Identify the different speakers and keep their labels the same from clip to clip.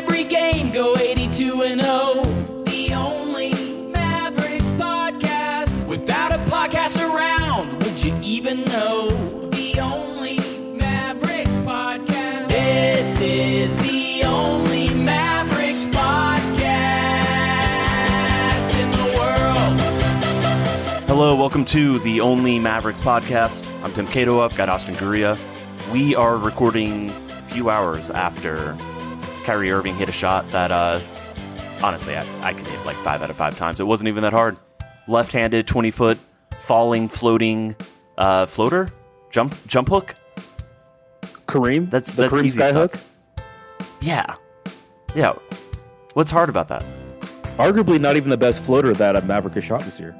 Speaker 1: every game, go 82-0. The only Mavericks podcast. Without a podcast around, would you even know? The only Mavericks podcast. This is the only Mavericks podcast in the world.
Speaker 2: Hello, welcome to the Only Mavericks podcast. I'm Tim Cato. I've got Austin Gurria. We are recording a few hours after Kyrie Irving hit a shot that, honestly, I could hit like 5 out of 5 times. It wasn't even that hard. Left-handed, 20-foot, falling, floating, floater? Jump hook?
Speaker 3: Kareem?
Speaker 2: That's
Speaker 3: Kareem
Speaker 2: easy
Speaker 3: skyhook?
Speaker 2: stuff. Yeah. What's hard about that?
Speaker 3: Arguably not even the best floater that a Maverick has shot this year.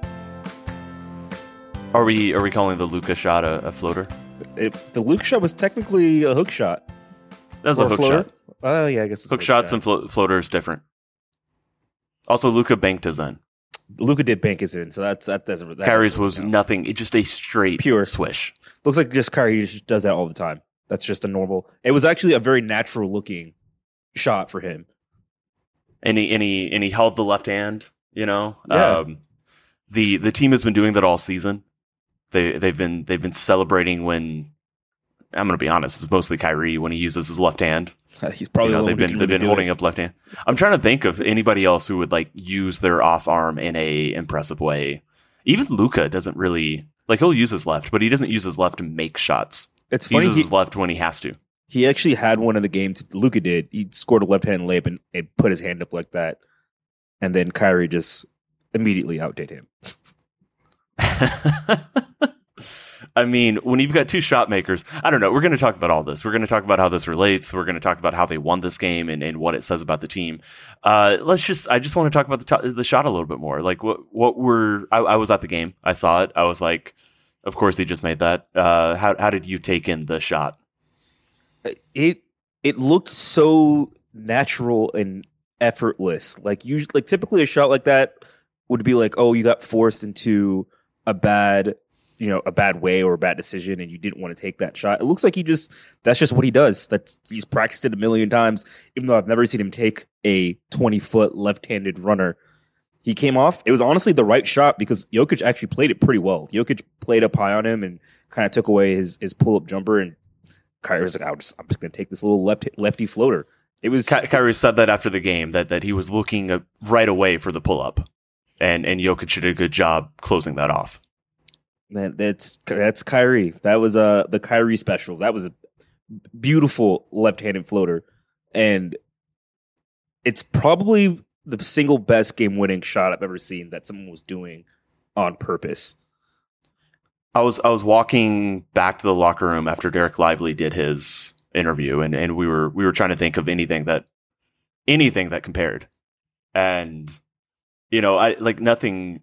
Speaker 2: Are we calling the Luka shot a floater?
Speaker 3: The Luke shot was technically a hook shot.
Speaker 2: That was
Speaker 3: Or
Speaker 2: a hook
Speaker 3: floater?
Speaker 2: shot.
Speaker 3: Oh, yeah, I guess it's
Speaker 2: Hook shots and floaters different. Also, Luka banked his in.
Speaker 3: Luka did bank his in, so that doesn't. That
Speaker 2: Kyrie's
Speaker 3: doesn't
Speaker 2: was
Speaker 3: count.
Speaker 2: nothing. It's just a straight
Speaker 3: Pure.
Speaker 2: swish.
Speaker 3: Looks like just Kyrie just does that all the time. That's just a normal. It was actually a very natural looking shot for him.
Speaker 2: And he held the left hand. You know,
Speaker 3: Yeah.
Speaker 2: The team has been doing that all season. They've been celebrating when, I'm going to be honest, it's mostly Kyrie when he uses his left hand.
Speaker 3: He's probably the one
Speaker 2: they've been holding up left hand. I'm trying to think of anybody else who would like use their off arm in a impressive way. Even Luka doesn't really like. He'll use his left, but he doesn't use his left to make shots.
Speaker 3: It's
Speaker 2: He
Speaker 3: funny.
Speaker 2: uses his left when he has to.
Speaker 3: He actually had one in the game. Luka did. He scored a left hand layup and put his hand up like that, and then Kyrie just immediately outdid him.
Speaker 2: I mean, when you've got two shot makers, I don't know. We're going to talk about all this. We're going to talk about how this relates. We're going to talk about how they won this game and what it says about the team. I just want to talk about the shot a little bit more. Like I was at the game. I saw it. I was like, of course he just made that. How did you take in the shot?
Speaker 3: It looked so natural and effortless. Like typically a shot like that would be like, oh, you got forced into a bad way or a bad decision and you didn't want to take that shot. It looks like that's just what he does. He's practiced it a million times, even though I've never seen him take a 20-foot left-handed runner. He came off. It was honestly the right shot because Jokic actually played it pretty well. Jokic played up high on him and kind of took away his pull-up jumper, and Kyrie was like, I'm just going to take this little lefty floater. It was
Speaker 2: Kyrie said that after the game that he was looking right away for the pull-up, and Jokic did a good job closing that off.
Speaker 3: That's Kyrie. That was the Kyrie special. That was a beautiful left-handed floater, and it's probably the single best game-winning shot I've ever seen that someone was doing on purpose.
Speaker 2: I was walking back to the locker room after Derek Lively did his interview, and we were trying to think of anything that compared, and I like nothing.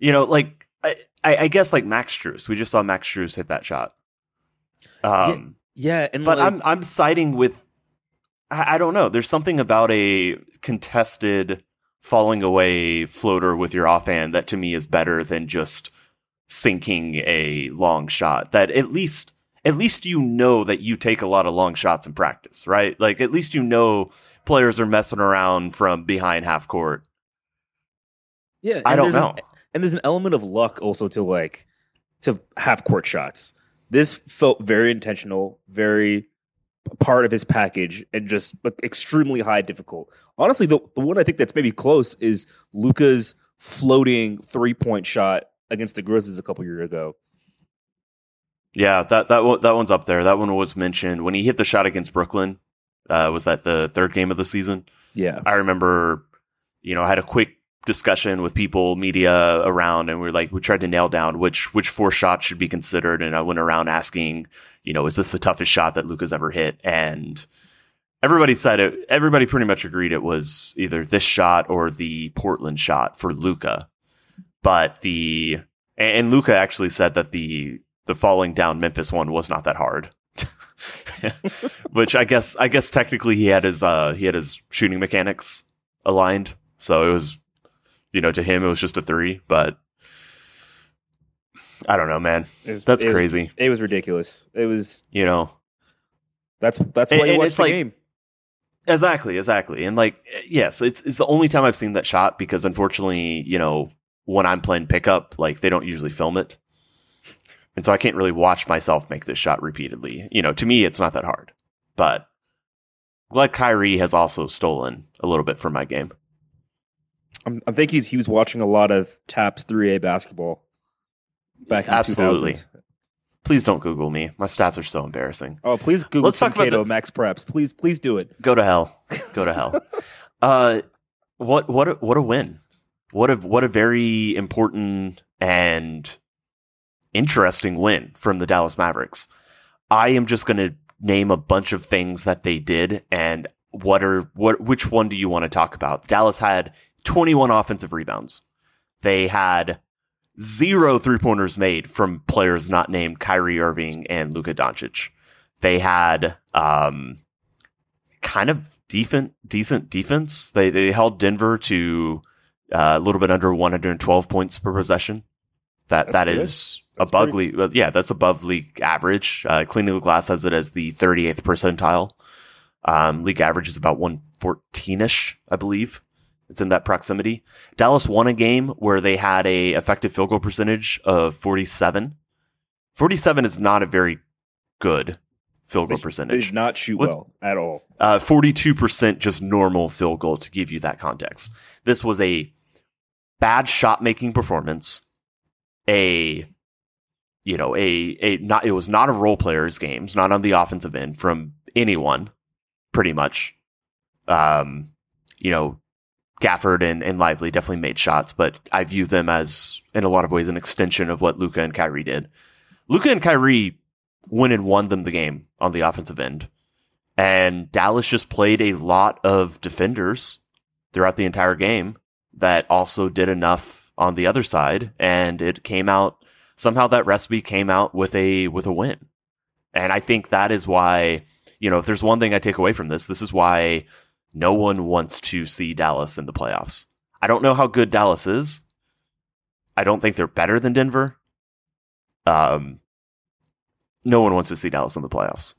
Speaker 2: I guess like Max Strus. We just saw Max Strus hit that shot.
Speaker 3: Yeah, and
Speaker 2: but I'm siding with. I don't know. There's something about a contested falling away floater with your offhand that to me is better than just sinking a long shot. That at least you know that you take a lot of long shots in practice, right? Like at least you know players are messing around from behind half court.
Speaker 3: Yeah,
Speaker 2: I don't know.
Speaker 3: And there's an element of luck also to half court shots. This felt very intentional, very part of his package, and just extremely high difficult. Honestly, the one I think that's maybe close is Luka's floating 3-point shot against the Grizzlies a couple years ago.
Speaker 2: Yeah, that one's up there. That one was mentioned when he hit the shot against Brooklyn. Was that the third game of the season?
Speaker 3: Yeah,
Speaker 2: I remember. I had a quick discussion with people, media around, and we tried to nail down which 4 shots should be considered. And I went around asking, is this the toughest shot that Luka's ever hit? And everybody said it. Everybody pretty much agreed it was either this shot or the Portland shot for Luka. But and Luka actually said that the falling down Memphis one was not that hard. Which I guess technically he had his shooting mechanics aligned. So it was, to him it was just a 3, but I don't know, man. That's crazy.
Speaker 3: It was ridiculous. It was,
Speaker 2: you know,
Speaker 3: that's why you watch the game.
Speaker 2: Exactly. And like, yes, it's the only time I've seen that shot because unfortunately, when I'm playing pickup, like they don't usually film it. And so I can't really watch myself make this shot repeatedly. To me, it's not that hard. But glad Kyrie has also stolen a little bit from my game.
Speaker 3: I think he was watching a lot of Taps 3A basketball back in
Speaker 2: Absolutely.
Speaker 3: 2000s.
Speaker 2: Please don't Google me. My stats are so embarrassing.
Speaker 3: Oh, please Google
Speaker 2: Let's
Speaker 3: Tim
Speaker 2: talk about
Speaker 3: Cato, Max Preps. Please do it.
Speaker 2: Go to hell. Go to hell. What a win. What a very important and interesting win from the Dallas Mavericks. I am just going to name a bunch of things that they did and which one do you want to talk about? Dallas had 21 offensive rebounds. They had 0 3-pointers made from players not named Kyrie Irving and Luka Doncic. They had kind of decent defense. They held Denver to a little bit under 112 points per possession. That is above league. That's above league average. Cleaning the Glass has it as the 38th percentile. League average is about 114-ish, I believe. It's in that proximity. Dallas won a game where they had a effective field goal percentage of 47. 47 is not a very good field goal percentage.
Speaker 3: They did not shoot well at all.
Speaker 2: 42% just normal field goal to give you that context. This was a bad shot making performance. It was not a role players games, not on the offensive end from anyone, pretty much. Gafford and Lively definitely made shots, but I view them as, in a lot of ways, an extension of what Luka and Kyrie did. Luka and Kyrie went and won them the game on the offensive end. And Dallas just played a lot of defenders throughout the entire game that also did enough on the other side. And it came out, somehow that recipe came out with a win. And I think that is why, if there's one thing I take away from this is why no one wants to see Dallas in the playoffs. I don't know how good Dallas is. I don't think they're better than Denver. No one wants to see Dallas in the playoffs.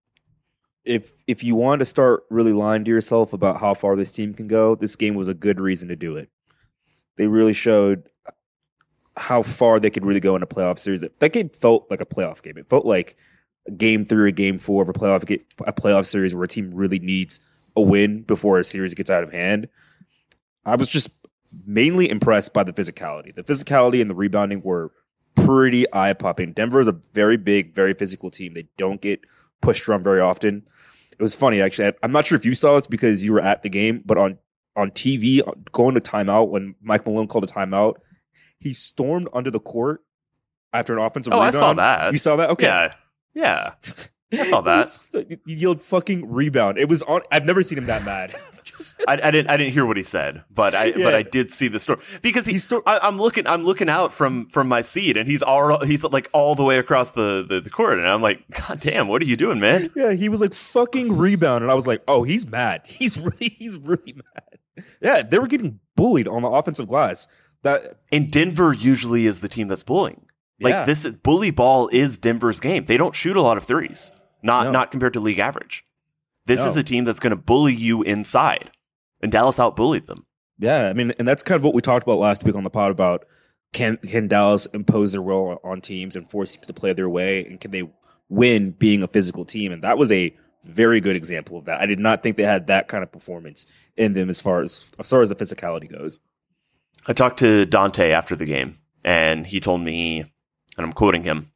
Speaker 3: If you want to start really lying to yourself about how far this team can go, this game was a good reason to do it. They really showed how far they could really go in a playoff series. That game felt like a playoff game. It felt like a game 3 or game 4 of a playoff series where a team really needs a win before a series gets out of hand. I was just mainly impressed by the physicality. The physicality and the rebounding were pretty eye-popping. Denver is a very big, very physical team. They don't get pushed around very often. It was funny, actually. I'm not sure if you saw this because you were at the game, but on TV, going to timeout, when Mike Malone called a timeout, he stormed under the court after an offensive rebound.
Speaker 2: I saw that.
Speaker 3: You saw that? Okay.
Speaker 2: Yeah. I saw that.
Speaker 3: He yelled fucking rebound. It was on. I've never seen him that mad.
Speaker 2: I didn't hear what he said, but I did see the story because I'm looking out from my seat and he's like all the way across the court and I'm like, God damn, what are you doing, man?
Speaker 3: Yeah, he was like fucking rebound and I was like, oh, he's mad. He's really mad. Yeah, they were getting bullied on the offensive glass.
Speaker 2: And Denver usually is the team that's bullying. Like this bully ball is Denver's game. They don't shoot a lot of threes, not compared to league average. This is a team that's going to bully you inside, and Dallas outbullied them.
Speaker 3: Yeah, I mean, and that's kind of what we talked about last week on the pod about can Dallas impose their will on teams and force teams to play their way, and can they win being a physical team? And that was a very good example of that. I did not think they had that kind of performance in them as far as the physicality goes.
Speaker 2: I talked to Dante after the game, and he told me, and I'm quoting him,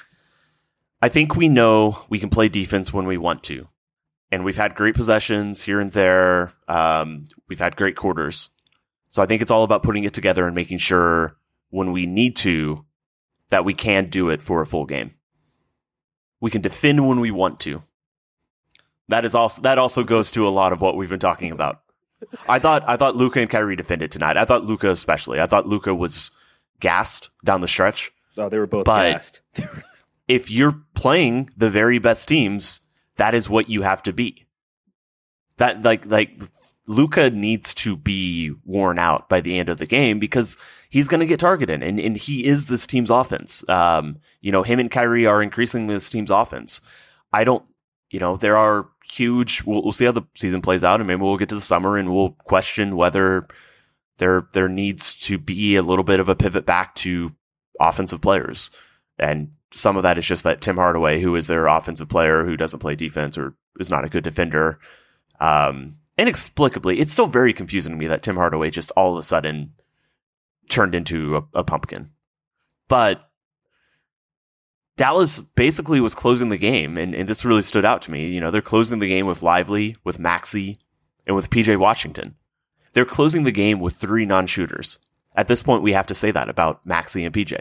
Speaker 2: I think we know we can play defense when we want to. And we've had great possessions here and there. We've had great quarters. So I think it's all about putting it together and making sure when we need to, that we can do it for a full game. We can defend when we want to. That also goes to a lot of what we've been talking about. I thought Luka and Kyrie defended tonight. I thought Luka especially. I thought Luka was gassed down the stretch.
Speaker 3: Oh, they were both gassed.
Speaker 2: If you're playing the very best teams, that is what you have to be. That like Luka needs to be worn out by the end of the game because he's going to get targeted, and he is this team's offense. Him and Kyrie are increasingly this team's offense. There are huge. We'll see how the season plays out, and maybe we'll get to the summer and we'll question whether there needs to be a little bit of a pivot back to offensive players. And some of that is just that Tim Hardaway, who is their offensive player, who doesn't play defense or is not a good defender. Inexplicably, it's still very confusing to me that Tim Hardaway just all of a sudden turned into a pumpkin. But Dallas basically was closing the game, and this really stood out to me. They're closing the game with Lively, with Maxey, and with PJ Washington. They're closing the game with 3 non-shooters. At this point, we have to say that about Maxey and PJ.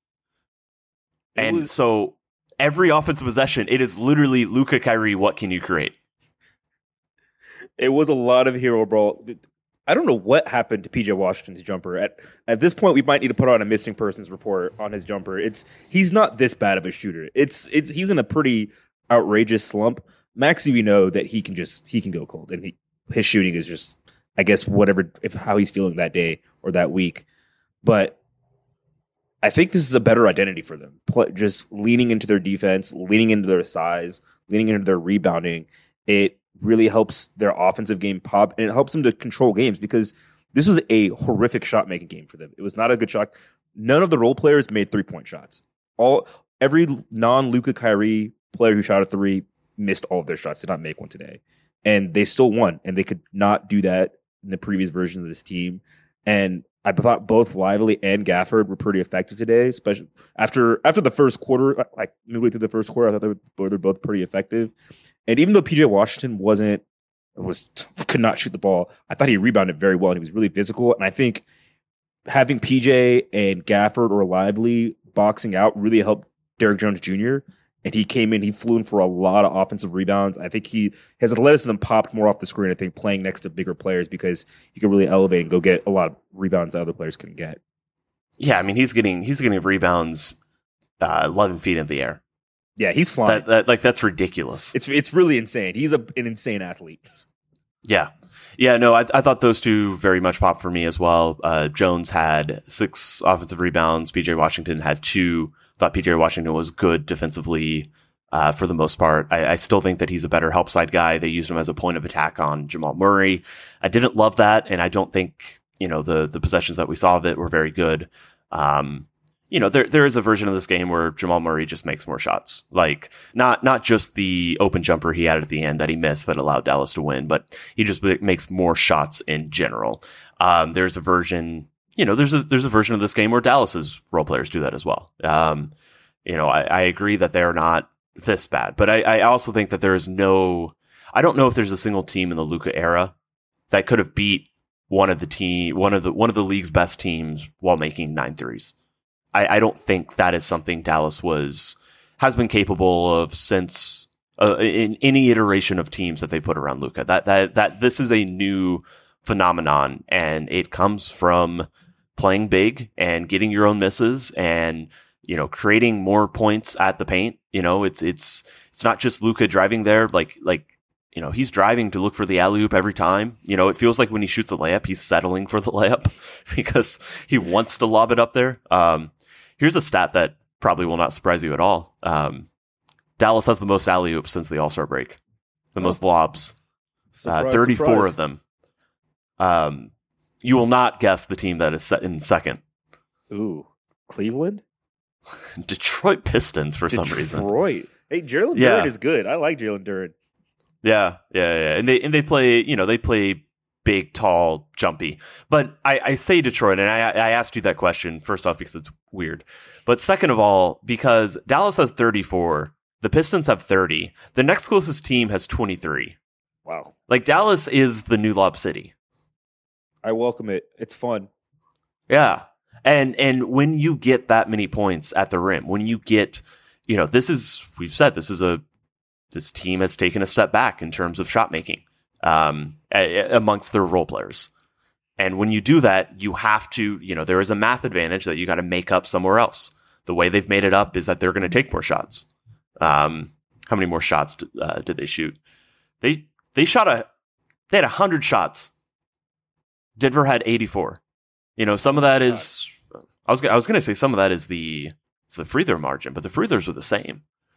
Speaker 2: So every offensive possession, it is literally Luka, Kyrie, what can you create?
Speaker 3: It was a lot of hero ball. I don't know what happened to PJ Washington's jumper. At this point, we might need to put on a missing persons report on his jumper. He's not this bad of a shooter. He's in a pretty outrageous slump. Maxey, we know that he can go cold, and his shooting is just, I guess, how he's feeling that day or that week. But I think this is a better identity for them. Just leaning into their defense, leaning into their size, leaning into their rebounding. It really helps their offensive game pop, and it helps them to control games, because this was a horrific shot-making game for them. It was not a good shot. None of the role players made three-point shots. Every non-Luka Kyrie player who shot a three missed all of their shots, did not make one today. And they still won, and they could not do that in the previous version of this team. And I thought both Lively and Gafford were pretty effective today, especially after the first quarter, like midway through the first quarter. I thought they were both pretty effective. And even though PJ Washington could not shoot the ball, I thought he rebounded very well, and he was really physical. And I think having PJ and Gafford or Lively boxing out really helped Derrick Jones Jr. And he came in, he flew in for a lot of offensive rebounds. I think his athleticism popped more off the screen, I think, playing next to bigger players, because he could really elevate and go get a lot of rebounds that other players couldn't get.
Speaker 2: Yeah, I mean, he's getting rebounds 11 feet in the air.
Speaker 3: Yeah, he's flying.
Speaker 2: That's ridiculous.
Speaker 3: It's really insane. He's an insane athlete.
Speaker 2: Yeah. Yeah, no, I thought those two very much popped for me as well. Jones had 6 offensive rebounds. PJ Washington had 2. Thought PJ Washington was good defensively for the most part. I still think that he's a better help side guy. They used him as a point of attack on Jamal Murray. I didn't love that, and I don't think the possessions that we saw of it were very good. There is a version of this game where Jamal Murray just makes more shots. Like not just the open jumper he had at the end that he missed that allowed Dallas to win, but he just makes more shots in general. There's a version, there's a version of this game where Dallas's role players do that as well. I agree that they're not this bad, but I also think that I don't know if there's a single team in the Luka era that could have beat one of the league's best teams while making 9 threes. I don't think that is something Dallas has been capable of since in any iteration of teams that they put around Luka. That this is a new phenomenon, and it comes from playing big and getting your own misses and creating more points at the paint. It's not just Luka driving there like he's driving to look for the alley-oop every time. It feels like when he shoots a layup, he's settling for the layup because he wants to lob it up there. Here's a stat that probably will not surprise you at all. Dallas has the most alley-oops since the All-Star break. The most lobs. 34 of them. You will not guess the team that is set in second.
Speaker 3: Ooh, Cleveland?
Speaker 2: Detroit Pistons for some reason.
Speaker 3: Detroit. Hey, Jalen Duren is good. I like Jalen Duren.
Speaker 2: Yeah. And they play, they play big, tall, jumpy. But I say Detroit, and I asked you that question, first off, because it's weird. But second of all, because Dallas has 34, the Pistons have 30. The next closest team has 23.
Speaker 3: Wow. Like,
Speaker 2: Dallas is the new Lob City.
Speaker 3: I welcome it. It's fun.
Speaker 2: Yeah. And when you get that many points at the rim, when you get, we've said this team has taken a step back in terms of shot making. Amongst their role players. And when you do that, you have to, there is a math advantage that you got to make up somewhere else. The way they've made it up is that they're going to take more shots. How many more shots did they shoot? They had 100 shots. Denver had 84. Some of that is, I was going to say some of that is the free throw margin, but the free throws were the same.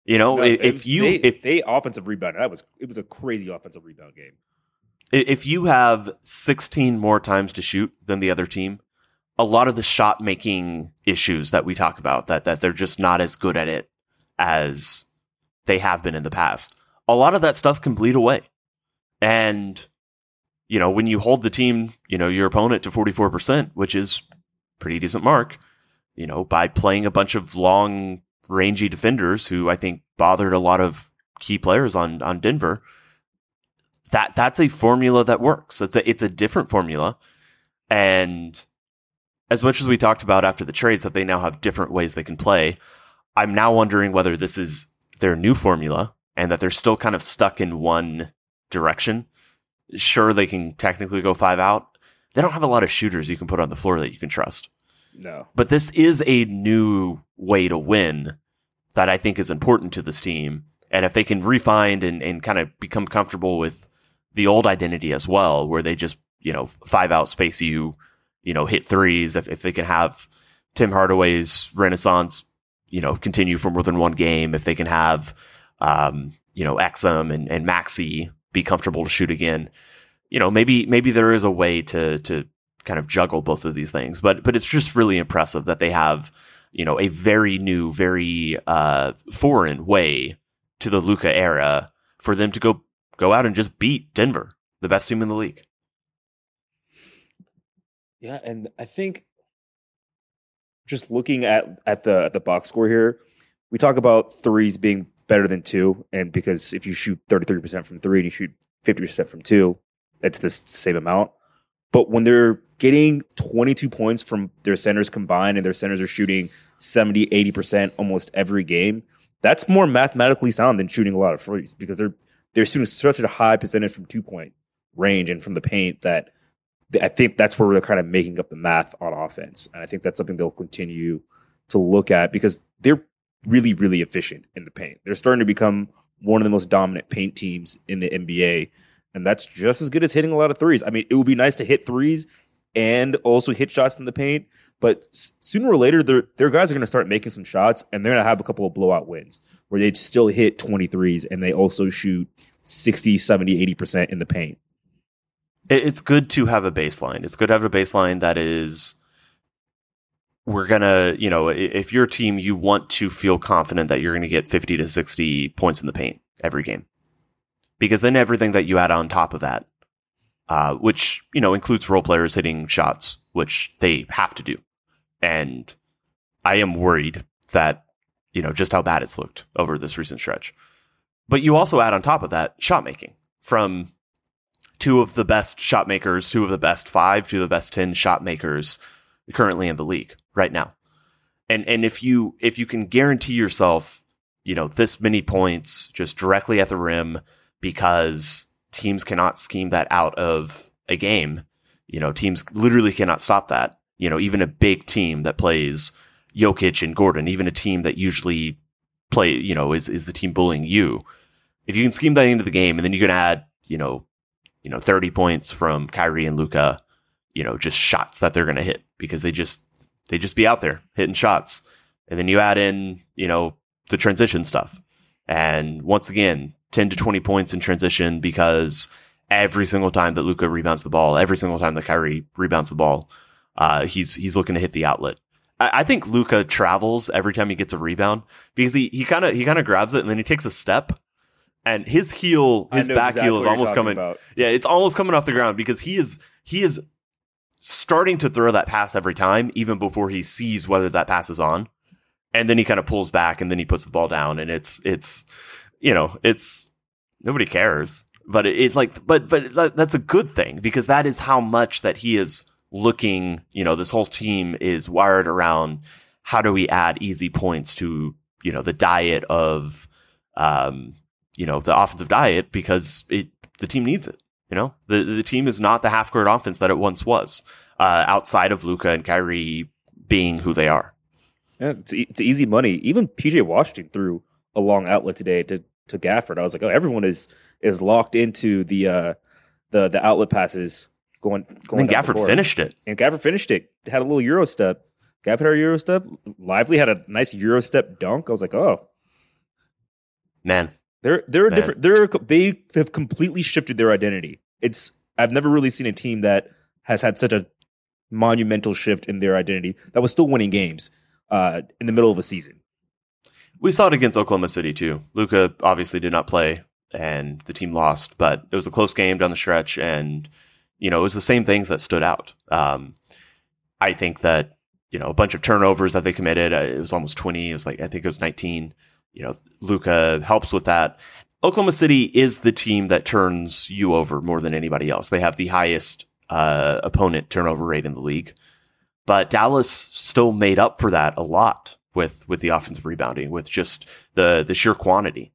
Speaker 2: You know,
Speaker 3: No,
Speaker 2: if
Speaker 3: they offensive rebound, it was a crazy offensive rebound game.
Speaker 2: If you have 16 more times to shoot than the other team, a lot of the shot making issues that we talk about, that they're just not as good at it as they have been in the past, a lot of that stuff can bleed away. And, you know, when you hold the team, you know, your opponent to 44%, which is pretty decent mark, you know, by playing a bunch of long, rangy defenders who I think bothered a lot of key players on Denver, that's a formula that works. It's a different formula. And as much as we talked about after the trades that they now have different ways they can play, I'm now wondering whether this is their new formula and that they're still kind of stuck in one direction. Sure, they can technically go 5 out. They don't have a lot of shooters you can put on the floor that you can trust.
Speaker 3: No.
Speaker 2: But this is a new way to win that I think is important to this team. And if they can refine and kind of become comfortable with the old identity as well, where they just, you know, 5 out space you know, hit threes, if they can have Tim Hardaway's renaissance, you know, continue for more than one game, if they can have, you know, Exum and Maxey be comfortable to shoot again, you know, maybe there is a way to kind of juggle both of these things. But it's just really impressive that they have, you know, a very new, very foreign way to the Luka era for them to go out and just beat Denver, the best team in the league.
Speaker 3: Yeah, and I think just looking at the box score here, we talk about threes being better than 2, and because if you shoot 33% from 3 and you shoot 50% from 2, it's the same amount. But when they're getting 22 points from their centers combined and their centers are shooting 70, 80% almost every game, that's more mathematically sound than shooting a lot of threes, because they're shooting such a high percentage from 2-point range and from the paint that I think that's where they're kind of making up the math on offense. And I think that's something they'll continue to look at, because they're really, really efficient in the paint. They're starting to become one of the most dominant paint teams in the NBA. And that's just as good as hitting a lot of threes. I mean, it would be nice to hit threes and also hit shots in the paint. But sooner or later, their guys are going to start making some shots, and they're going to have a couple of blowout wins where they still hit 23s and they also shoot 60, 70, 80% in the paint.
Speaker 2: It's good to have a baseline. It's good to have a baseline that is, we're going to, you know, if you're a team, you want to feel confident that you're going to get 50 to 60 points in the paint every game. Because then everything that you add on top of that, which, you know, includes role players hitting shots, which they have to do. And I am worried that, you know, just how bad it's looked over this recent stretch. But you also add on top of that shot making from 2 of the best shot makers, 2 of the best 5, 2 of the best 10 shot makers currently in the league right now. And if you can guarantee yourself, you know, this many points just directly at the rim, because teams cannot scheme that out of a game, you know, teams literally cannot stop that. You know, even a big team that plays Jokic and Gordon, even a team that usually play, you know, is the team bullying you. If you can scheme that into the game, and then you can add, you know, 30 points from Kyrie and Luka, you know, just shots that they're going to hit, because they just be out there hitting shots. And then you add in, you know, the transition stuff. And once again, 10 to 20 points in transition, because every single time that Luka rebounds the ball, every single time that Kyrie rebounds the ball, he's looking to hit the outlet. I think Luka travels every time he gets a rebound, because he kind of grabs it and then he takes a step, and his back heel is almost coming. Yeah, it's almost coming off the ground, because he is starting to throw that pass every time, even before he sees whether that pass is on, and then he kind of pulls back and then he puts the ball down, and it's you know, it's nobody cares, but it's like, but that's a good thing, because that is how much that he is looking, you know, this whole team is wired around how do we add easy points to, you know, the diet of, you know, the offensive diet, because the team needs it. You know, the team is not the half court offense that it once was, outside of Luka and Kyrie being who they are.
Speaker 3: Yeah, it's easy money. Even PJ Washington threw a long outlet today to Gafford. I was like, oh, everyone is locked into the outlet passes going.
Speaker 2: And Gafford finished it.
Speaker 3: And Gafford finished it. Had a little Euro step. Gafford had a Euro step. Lively had a nice Euro step dunk. I was like, oh,
Speaker 2: Man,
Speaker 3: They're a different. They have completely shifted their identity. I've never really seen a team that has had such a monumental shift in their identity that was still winning games in the middle of a season.
Speaker 2: we saw it against Oklahoma City too. Luka obviously did not play, and the team lost, but it was a close game down the stretch, and it was the same things that stood out. I think that a bunch of turnovers that they committed. It was almost 20. It was I think it was 19. Luka helps with that. Oklahoma City is the team that turns you over more than anybody else. They have the highest opponent turnover rate in the league, but Dallas still made up for that a lot with the offensive rebounding, with just the sheer quantity,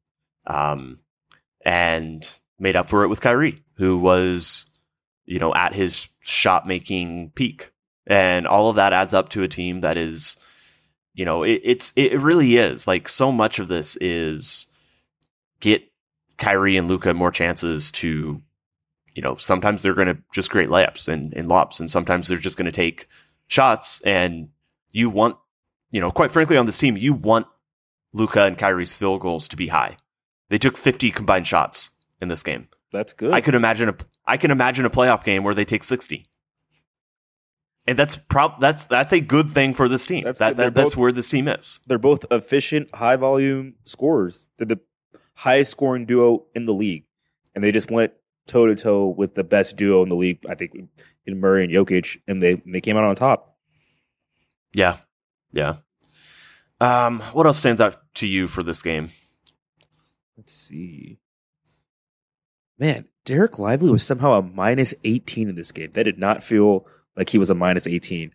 Speaker 2: and made up for it with Kyrie, who was at his shot making peak, and all of that adds up to a team that is. It really is so much of this is get Kyrie and Luka more chances to, sometimes they're going to just create layups and lobs, and sometimes they're just going to take shots. And you want, quite frankly, on this team, you want Luka and Kyrie's field goals to be high. They took 50 combined shots in this game.
Speaker 3: That's good.
Speaker 2: I can imagine a playoff game where they take 60. And that's a good thing for this team. That's where this team is.
Speaker 3: They're both efficient, high volume scorers. They're the highest scoring duo in the league, and they just went toe to toe with the best duo in the league. I think in Murray and Jokic, and they came out on top.
Speaker 2: Yeah. What else stands out to you for this game?
Speaker 3: Let's see. Man, Derek Lively was somehow a minus 18 in this game. That did not feel like he was a minus 18.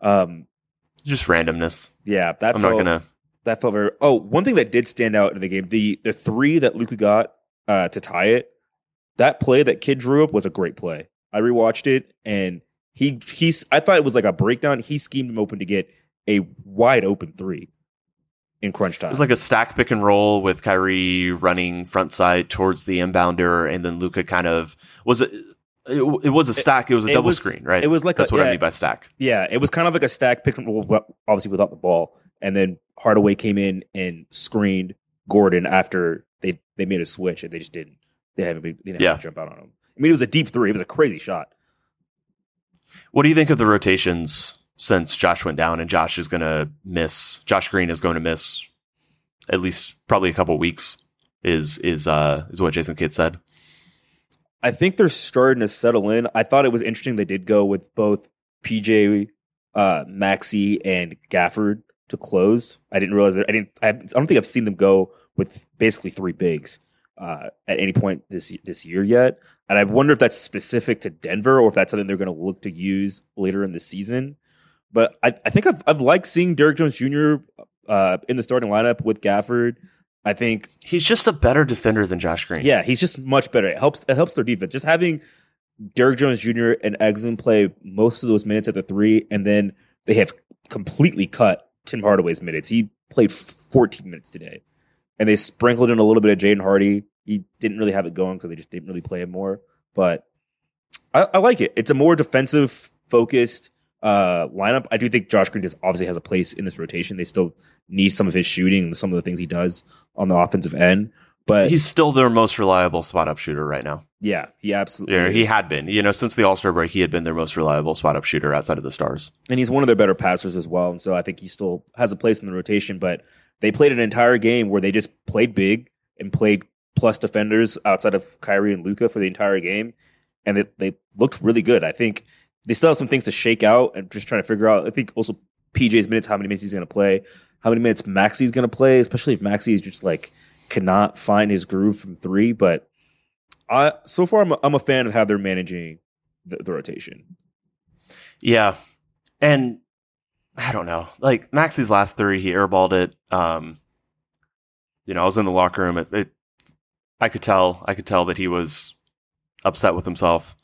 Speaker 2: Just randomness.
Speaker 3: Yeah, that felt very. Oh, one thing that did stand out in the game, the three that Luka got to tie it. That play that Kid drew up was a great play. I rewatched it, and I thought it was like a breakdown. He schemed him open to get a wide open three in crunch time.
Speaker 2: It was like a stack pick and roll with Kyrie running front side towards the inbounder, and then Luka kind of was it. It was a stack. It was a double screen, right?
Speaker 3: It was like
Speaker 2: that's what I mean by stack.
Speaker 3: Yeah, it was kind of like a stack pick and roll, obviously without the ball. And then Hardaway came in and screened Gordon after they made a switch, and they just didn't. They didn't have to jump out on him. I mean, it was a deep three. It was a crazy shot.
Speaker 2: What do you think of the rotations since Josh went down, and Josh Green is going to miss at least probably a couple weeks? Is what Jason Kidd said.
Speaker 3: I think they're starting to settle in. I thought it was interesting they did go with both PJ, Maxey, and Gafford to close. I didn't realize that. I don't think I've seen them go with basically three bigs at any point this year yet. And I wonder if that's specific to Denver or if that's something they're going to look to use later in the season. But I think I've liked seeing Derrick Jones Jr. In the starting lineup with Gafford. I think
Speaker 2: he's just a better defender than Josh Green.
Speaker 3: Yeah, he's just much better. It helps their defense. Just having Derrick Jones Jr. and Exum play most of those minutes at the three, and then they have completely cut Tim Hardaway's minutes. He played 14 minutes today, and they sprinkled in a little bit of Jaden Hardy. He didn't really have it going, so they just didn't really play him more. But I like it. It's a more defensive focused lineup. I do think Josh Green obviously has a place in this rotation. They still need some of his shooting and some of the things he does on the offensive end. But
Speaker 2: he's still their most reliable spot-up shooter right now.
Speaker 3: Yeah, he absolutely is.
Speaker 2: He had been. Since the All-Star break, he had been their most reliable spot-up shooter outside of the Stars.
Speaker 3: And he's one of their better passers as well. And so I think he still has a place in the rotation. But they played an entire game where they just played big and played plus defenders outside of Kyrie and Luka for the entire game. And they looked really good. I think they still have some things to shake out and just trying to figure out. I think also PJ's minutes, how many minutes he's going to play, how many minutes Maxey's going to play, especially if Maxey is just cannot find his groove from three. But so far, I'm a fan of how they're managing the rotation.
Speaker 2: Yeah. And I don't know. Maxey's last three, he airballed it. I was in the locker room. I could tell that he was upset with himself.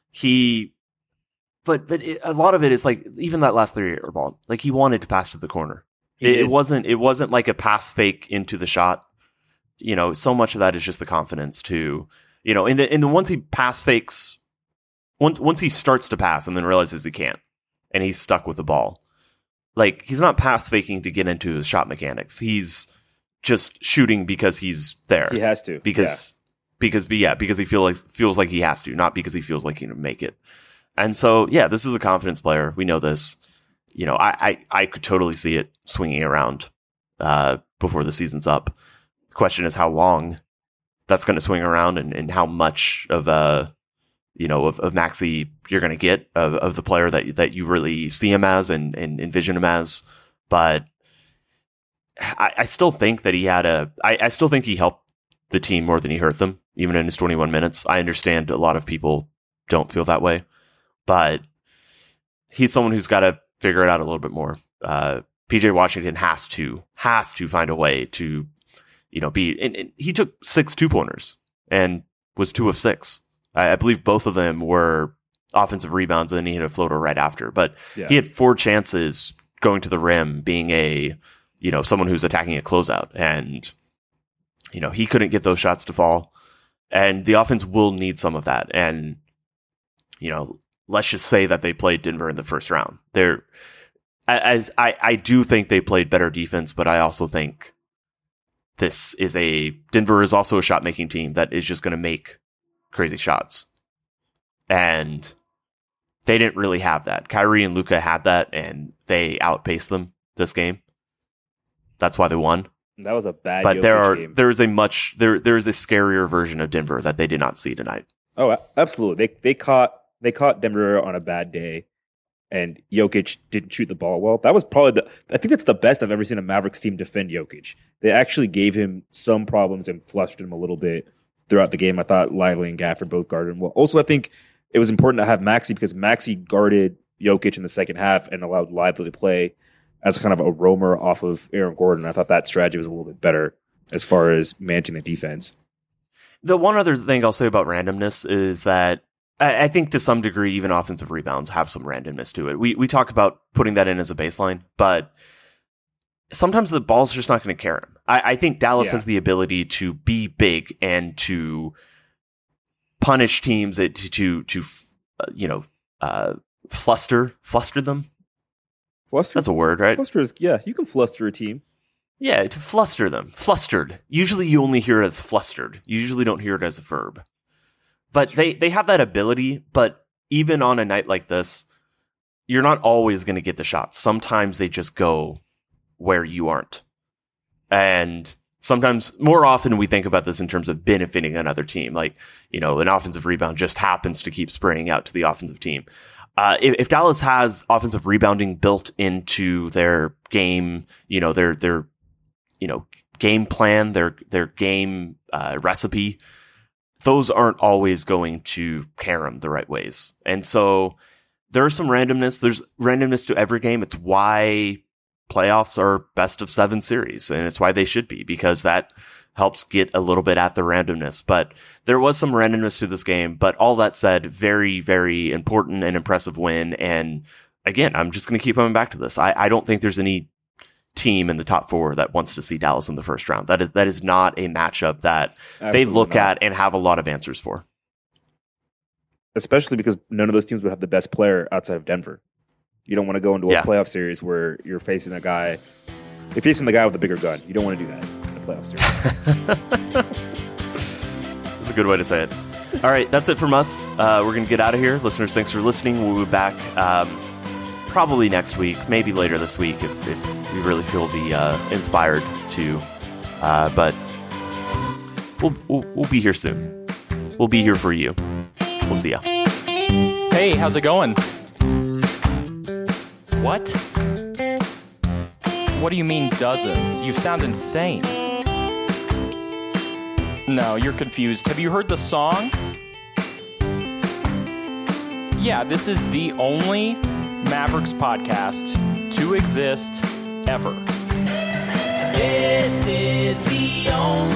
Speaker 2: But a lot of it is even that last three airball, he wanted to pass to the corner. It wasn't like a pass fake into the shot. So much of that is just the confidence to, in the once he pass fakes, once he starts to pass and then realizes he can't, and he's stuck with the ball. He's not pass faking to get into his shot mechanics. He's just shooting because he's there.
Speaker 3: He has to.
Speaker 2: Because he feels like he has to, not because he feels like he can make it. And so, this is a confidence player. We know this. You know, I could totally see it swinging around before the season's up. The question is how long that's going to swing around and how much of of Maxey you're going to get of the player that you really see him as and envision him as. But I still think that I still think he helped the team more than he hurt them, even in his 21 minutes. I understand a lot of people don't feel that way, but he's someone who's got to figure it out a little bit more. PJ Washington has to find a way to, and he took 6 2-pointers and was 2 of 6. I believe both of them were offensive rebounds, and then he hit a floater right after. But he had 4 chances going to the rim, being someone who's attacking a closeout, and he couldn't get those shots to fall. And the offense will need some of that. And let's just say that they played Denver in the first round. I do think they played better defense, but I also think Denver is also a shot making team that is just going to make crazy shots. And they didn't really have that. Kyrie and Luka had that, and they outpaced them this game. That's why they won.
Speaker 3: That was a bad
Speaker 2: But
Speaker 3: game.
Speaker 2: there is a scarier version of Denver that they did not see tonight.
Speaker 3: Oh, absolutely. They caught Denver on a bad day, and Jokic didn't shoot the ball well. That was probably I think that's the best I've ever seen a Mavericks team defend Jokic. They actually gave him some problems and flushed him a little bit throughout the game. I thought Lively and Gafford both guarded him well. Also, I think it was important to have Maxey because Maxey guarded Jokic in the second half and allowed Lively to play as kind of a roamer off of Aaron Gordon. I thought that strategy was a little bit better as far as managing the defense.
Speaker 2: The one other thing I'll say about randomness is that I think to some degree, even offensive rebounds have some randomness to it. We talk about putting that in as a baseline, but sometimes the ball's just not going to carry him. I think Dallas has the ability to be big and to punish teams, fluster them.
Speaker 3: Fluster?
Speaker 2: That's a word, right?
Speaker 3: Fluster is, you can fluster a team.
Speaker 2: Yeah, to fluster them. Flustered. Usually you only hear it as flustered. You usually don't hear it as a verb. But they have that ability, but even on a night like this, you're not always going to get the shots. Sometimes they just go where you aren't. And sometimes, more often, we think about this in terms of benefiting another team. Like, an offensive rebound just happens to keep spraying out to the offensive team. If Dallas has offensive rebounding built into their game, their game plan, their game recipe, those aren't always going to carry them the right ways. And so there's some randomness. There's randomness to every game. It's why playoffs are best of 7 series, and it's why they should be, because that helps get a little bit at the randomness. But there was some randomness to this game. But all that said, very, very important and impressive win. And again, I'm just going to keep coming back to this. I don't think there's any team in the top 4 that wants to see Dallas in the first round. That is not a matchup that they look at and have a lot of answers for.
Speaker 3: Especially because none of those teams would have the best player outside of Denver. You don't want to go into a playoff series where you're facing the guy with a bigger gun. You don't want to do that in a playoff
Speaker 2: series. That's a good way to say it. All right, that's it from us. We're going to get out of here. Listeners, thanks for listening. We'll be back probably next week, maybe later this week if we really feel inspired to. But we'll be here soon. We'll be here for you. We'll see ya.
Speaker 1: Hey, how's it going? What? What do you mean dozens? You sound insane. No, you're confused. Have you heard the song? Yeah, this is the only Mavericks podcast to exist ever. This is the only